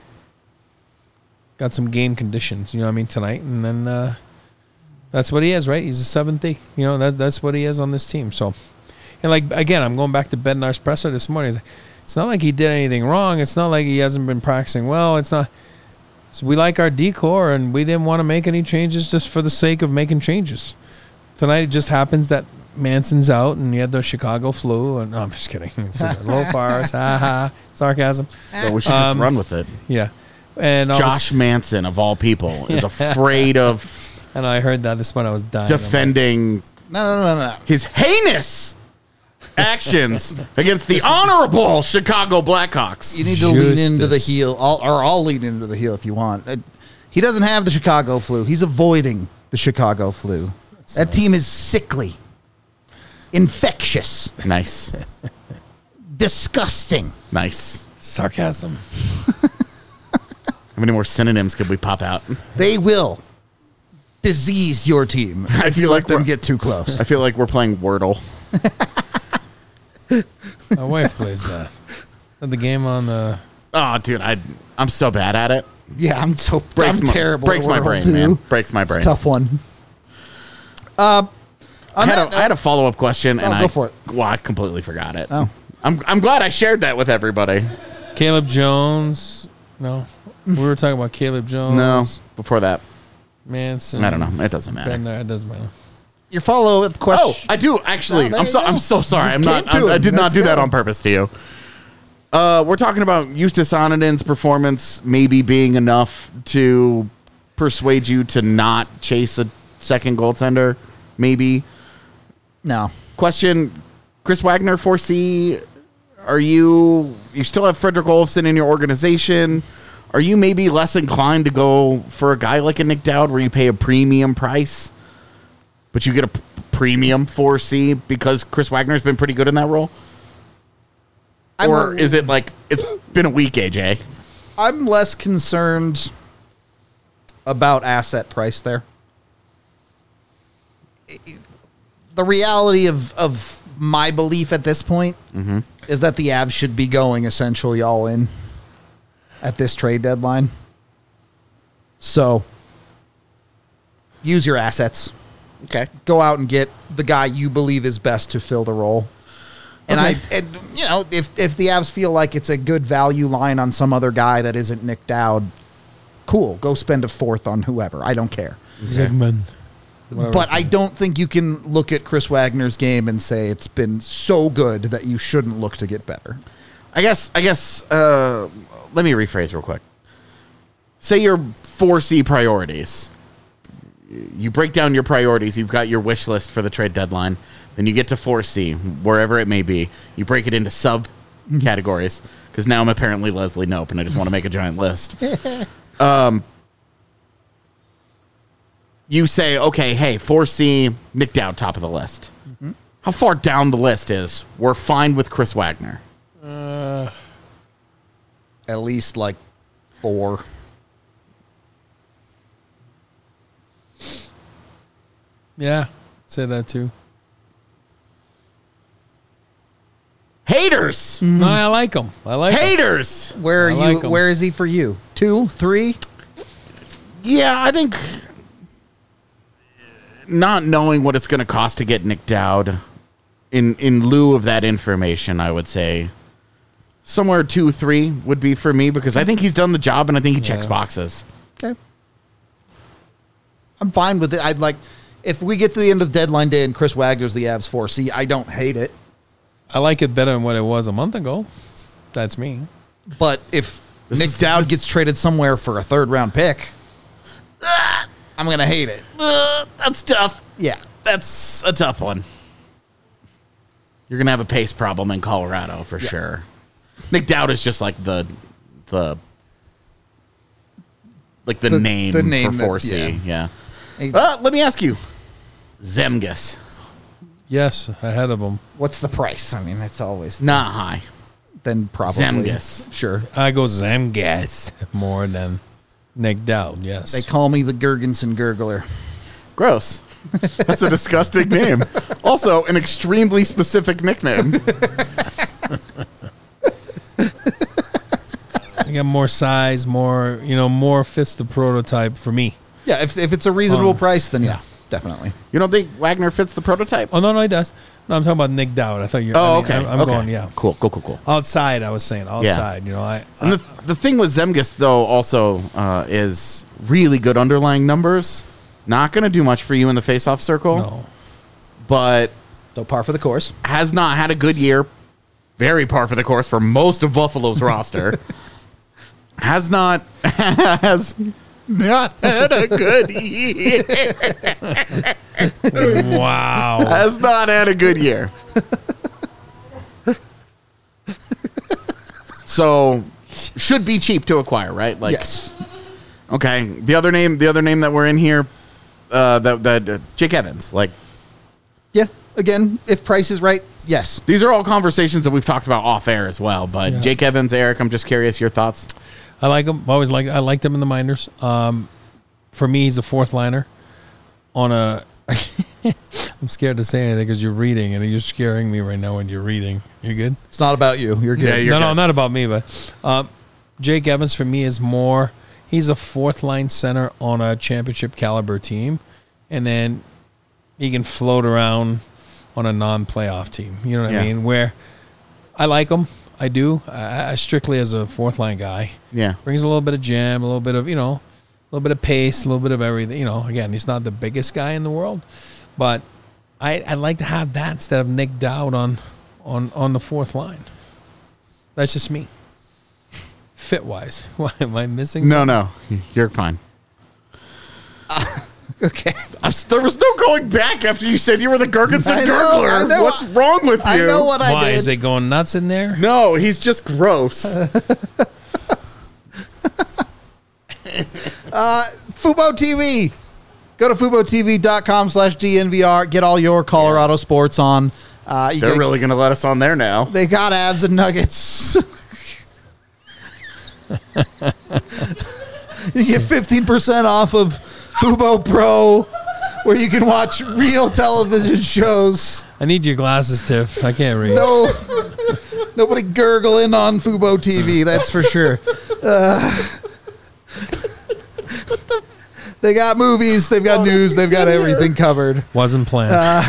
got some game conditions. You know what I mean? Tonight, and then that's what he is, right? He's a 7th. That's what he is on this team. So, and like again, I'm going back to Bednar's presser this morning. It's not like he did anything wrong. It's not like he hasn't been practicing well. It's not. So we like our decor, and we didn't want to make any changes just for the sake of making changes. Tonight, it just happens that Manson's out, and you had the Chicago flu. And no, I'm just kidding. It's a low fires, sarcasm. so we should just run with it. Yeah, and Josh Manson, of all people, is afraid of and I heard that this one. I was dying. defending No. his heinous actions against the honorable Chicago Blackhawks. You need to lean into the Justice. heel, I'll lean into the heel if you want. He doesn't have the Chicago flu. He's avoiding the Chicago flu. That team is sickly, infectious, Nice. disgusting. Nice. sarcasm. How many more synonyms could we pop out? They will disease your team I if you feel let like them we're- get too close. I feel like we're playing Wordle. My wife plays that. At the game on the. Oh, dude, I'm so bad at it. Yeah, I'm Breaks my, terrible. Breaks at my Wordle, brain, too. man. Breaks my It's a brain. tough one. I had a follow-up question, and go for it. Well, I completely forgot it. Oh. I'm glad I shared that with everybody. Caleb Jones. No. We were talking about Caleb Jones. No, before that, Manson. I don't know. It doesn't matter. Bednar, it doesn't matter. Your follow-up Oh, question. I do actually. Oh, there I'm you so go. I'm so sorry. You came to I him. did not Let's do that go. on purpose to you. We're talking about Eustace Ononen's performance maybe being enough to persuade you to not chase a second goaltender. Maybe. No. Question: Chris Wagner 4C. Are you still have Frederick Olofsson in your organization? Are you maybe less inclined to go for a guy like a Nick Dowd where you pay a premium price, but you get a premium 4C because Chris Wagner's been pretty good in that role? Or is it like it's been a week, AJ? I'm less concerned about asset price there. the reality of my belief at this point is that the Avs should be going essentially all in at this trade deadline. So use your assets. Okay. Go out and get the guy you believe is best to fill the role. And if the Avs feel like it's a good value line on some other guy that isn't Nick Dowd, cool. Go spend a fourth on whoever. I don't care. Zygmunt. But I don't think you can look at Chris Wagner's game and say it's been so good that you shouldn't look to get better. I guess. Let me rephrase real quick. Say your 4C priorities. You break down your priorities. You've got your wish list for the trade deadline. Then you get to 4C, wherever it may be. You break it into sub-categories. Because now I'm apparently Leslie Knope, and I just want to make a giant list. You say, okay, hey, 4C, Nick Dowd, top of the list. Mm-hmm. How far down the list is we're fine with Chris Wagner? At least like 4. Yeah, say that too. Haters! No, I like him. I like him. Haters! Where are I you? like him. Where is he for you? 2, 3? Yeah, I think not knowing what it's going to cost to get Nick Dowd, in lieu of that information, I would say somewhere 2, 3 would be for me because I think he's done the job and I think he checks boxes. Okay. I'm fine with it. I'd like, if we get to the end of the deadline day and Chris Wagner's the Avs 4C, I don't hate it. I like it better than what it was a month ago. That's me. But if Nick Dowd gets traded somewhere for a 3rd round pick, I'm going to hate it. That's tough. Yeah. That's a tough one. You're going to have a pace problem in Colorado for sure. Nick Dowd is just like the name the name for 4C. Yeah. Hey, Let me ask you. Zemgus. Yes, ahead of him. what's the price? I mean, that's always Not high. then probably. Zemgus. Sure. I go Zemgas more than Nick Dowd, yes. They call me the Gergensen Gurgler. Gross. That's a disgusting name. Also, an extremely specific nickname. I got more size, more fits the prototype for me. Yeah, if it's a reasonable price, then yeah, definitely. You don't think Wagner fits the prototype? Oh, no, he does. No, I'm talking about Nick Dowd. I thought you Oh, okay. I'm okay. going, yeah. Cool. Outside, I was saying. Outside, And the thing with Zemgus, though, also is really good underlying numbers. Not going to do much for you in the faceoff circle. No. But So par for the course. has not had a good year. Very par for the course for most of Buffalo's roster. Has not had a good year. Wow. Has not had a good year. So should be cheap to acquire, right? Like, Yes. Okay. The other name that we're in here, that Jake Evans. Like, Yeah. Again, if price is right, yes. these are all conversations that we've talked about off air as well. But Yeah. Jake Evans, Eric, I'm just curious your thoughts. I like him. I liked him in the minors. For me, he's a 4th liner on a. I'm scared to say anything because you're reading and you're scaring me right now when you're reading. You good? It's not about you. You're good. Yeah, you're No, good. not about me, but Jake Evans for me is more. He's a 4th line center on a championship caliber team, and then he can float around on a non-playoff team. You know what Yeah. I mean? Where I like him. I do. I strictly as a 4th line guy. Yeah. Brings a little bit of jam, a little bit of, a little bit of pace, a little bit of everything. Again, he's not the biggest guy in the world, but I'd like to have that instead of Nick Dowd on the 4th line. That's just me. Fit-wise. Why, am I missing something? No, you're fine. Okay. There was no going back after you said you were the Gergensen I know, Gurgler. I know. What's wrong with you? I know what I Why? did. Is it going nuts in there? No, he's just gross. Fubo TV. Go to FuboTV.com/DNVR. Get all your Colorado sports on. They're really going to let us on there now. They got Abs and Nuggets. You get 15% off of Fubo Pro where you can watch real television shows. I need your glasses, Tiff. I can't read. No, nobody gurgling on Fubo TV. That's for sure. They got movies. They've got news. They've got everything covered. Wasn't planned.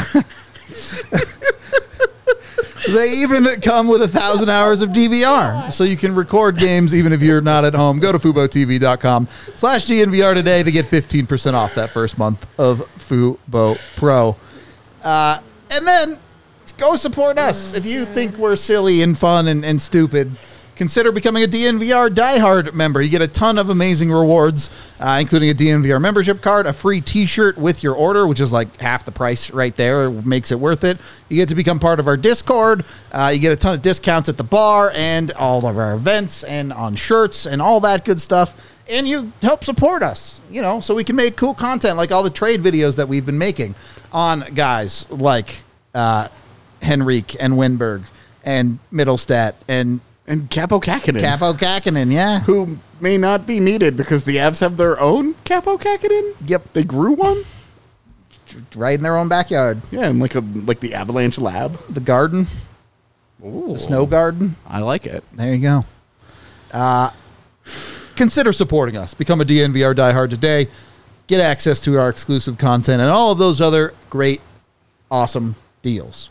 They even come with 1,000 hours of DVR, so you can record games even if you're not at home. Go to FuboTV.com/DNVR today to get 15% off that first month of Fubo Pro. And then go support us. If you think we're silly and fun and stupid, consider becoming a DNVR diehard member. You get a ton of amazing rewards, including a DNVR membership card, a free t-shirt with your order, which is like half the price right there. It makes it worth it. You get to become part of our Discord. You get a ton of discounts at the bar and all of our events and on shirts and all that good stuff. And you help support us, so we can make cool content like all the trade videos that we've been making on guys like Henrique and Winberg and Middlestat and Capo Kakinen. Yeah. Who may not be needed because the Avs have their own Capo Kakinen. Yep. They grew one. Right in their own backyard. Yeah, and like the Avalanche Lab. The garden. Ooh. The snow garden. I like it. There you go. Consider supporting us. Become a DNVR diehard today. Get access to our exclusive content and all of those other great, awesome deals.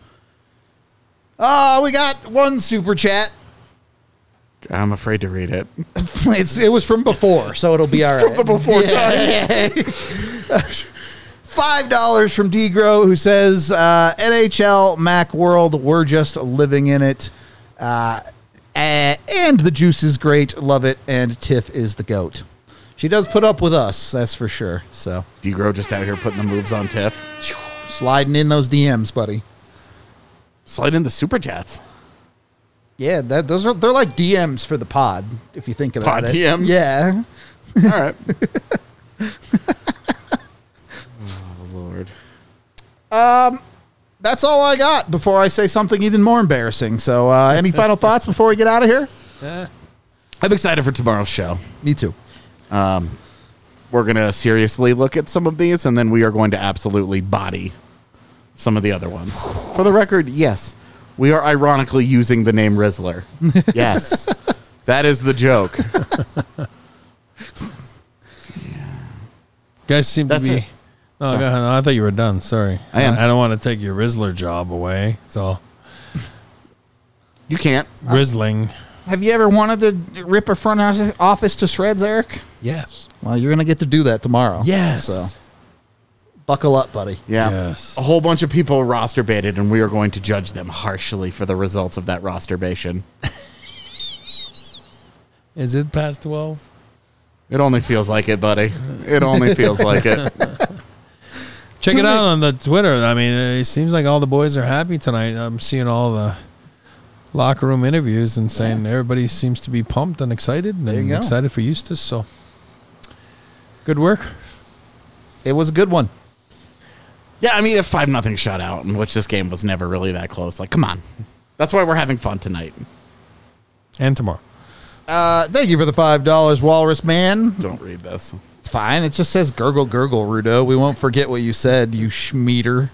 We got one super chat. I'm afraid to read it. It was from before, so it'll be all right. From the before time. $5 from Degro, who says, NHL, Mac World, we're just living in it. And the juice is great. Love it. And Tiff is the GOAT. She does put up with us, that's for sure. So Degro just out here putting the moves on Tiff. Sliding in those DMs, buddy. Slide in the super chats. Yeah, they're like DMs for the pod, if you think about Pod it. DMs? Yeah. All right. Oh, Lord. That's all I got before I say something even more embarrassing. So any final thoughts before we get out of here? I'm excited for tomorrow's show. Me too. We're going to seriously look at some of these, and then we are going to absolutely body some of the other ones. For the record, yes, we are ironically using the name Rizzler. Yes, that is the joke. Guys seem That's to be... it. Oh, go ahead. No, I thought you were done. Sorry. I am. I don't want to take your Rizzler job away. So, You can't. Rizzling. Have you ever wanted to rip a front office to shreds, Eric? Yes. Well, you're going to get to do that tomorrow. Yes. So buckle up, buddy. Yeah. Yes. A whole bunch of people roster baited, and we are going to judge them harshly for the results of that roster bation. Is it past 12? It only feels like it, buddy. It only feels like it. Check it out on the Twitter. I mean, it seems like all the boys are happy tonight. I'm seeing all the locker room interviews and saying everybody seems to be pumped and excited you and go. excited for Eustace. So, good work. It was a good one. Yeah, I mean, a 5-0 shutout, in which this game was never really that close. Like, come on. That's why we're having fun tonight. And tomorrow. Thank you for the $5, Walrus Man. Don't read this. It's fine. It just says gurgle, gurgle, Rudo. We won't forget what you said, you schmeater.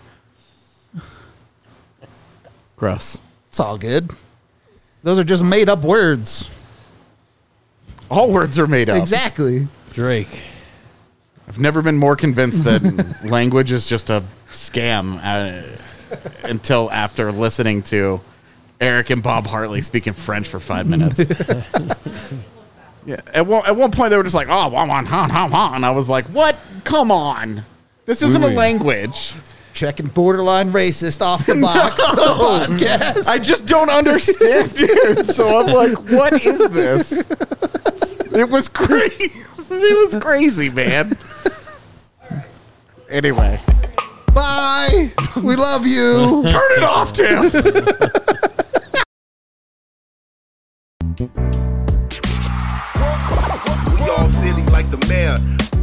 Gross. It's all good. Those are just made up words. All words are made up. Exactly. Drake. I've never been more convinced that language is just a scam until after listening to Eric and Bob Hartley speaking French for 5 minutes. Yeah. At one point, they were just like, oh, and I was like, what? Come on. This isn't a language. Checking borderline racist off the box podcast. I just don't understand it. So I'm like, what is this? It was crazy. It was crazy, man. Anyway. Bye. We love you. Turn it off, Tim. We all silly like the mayor.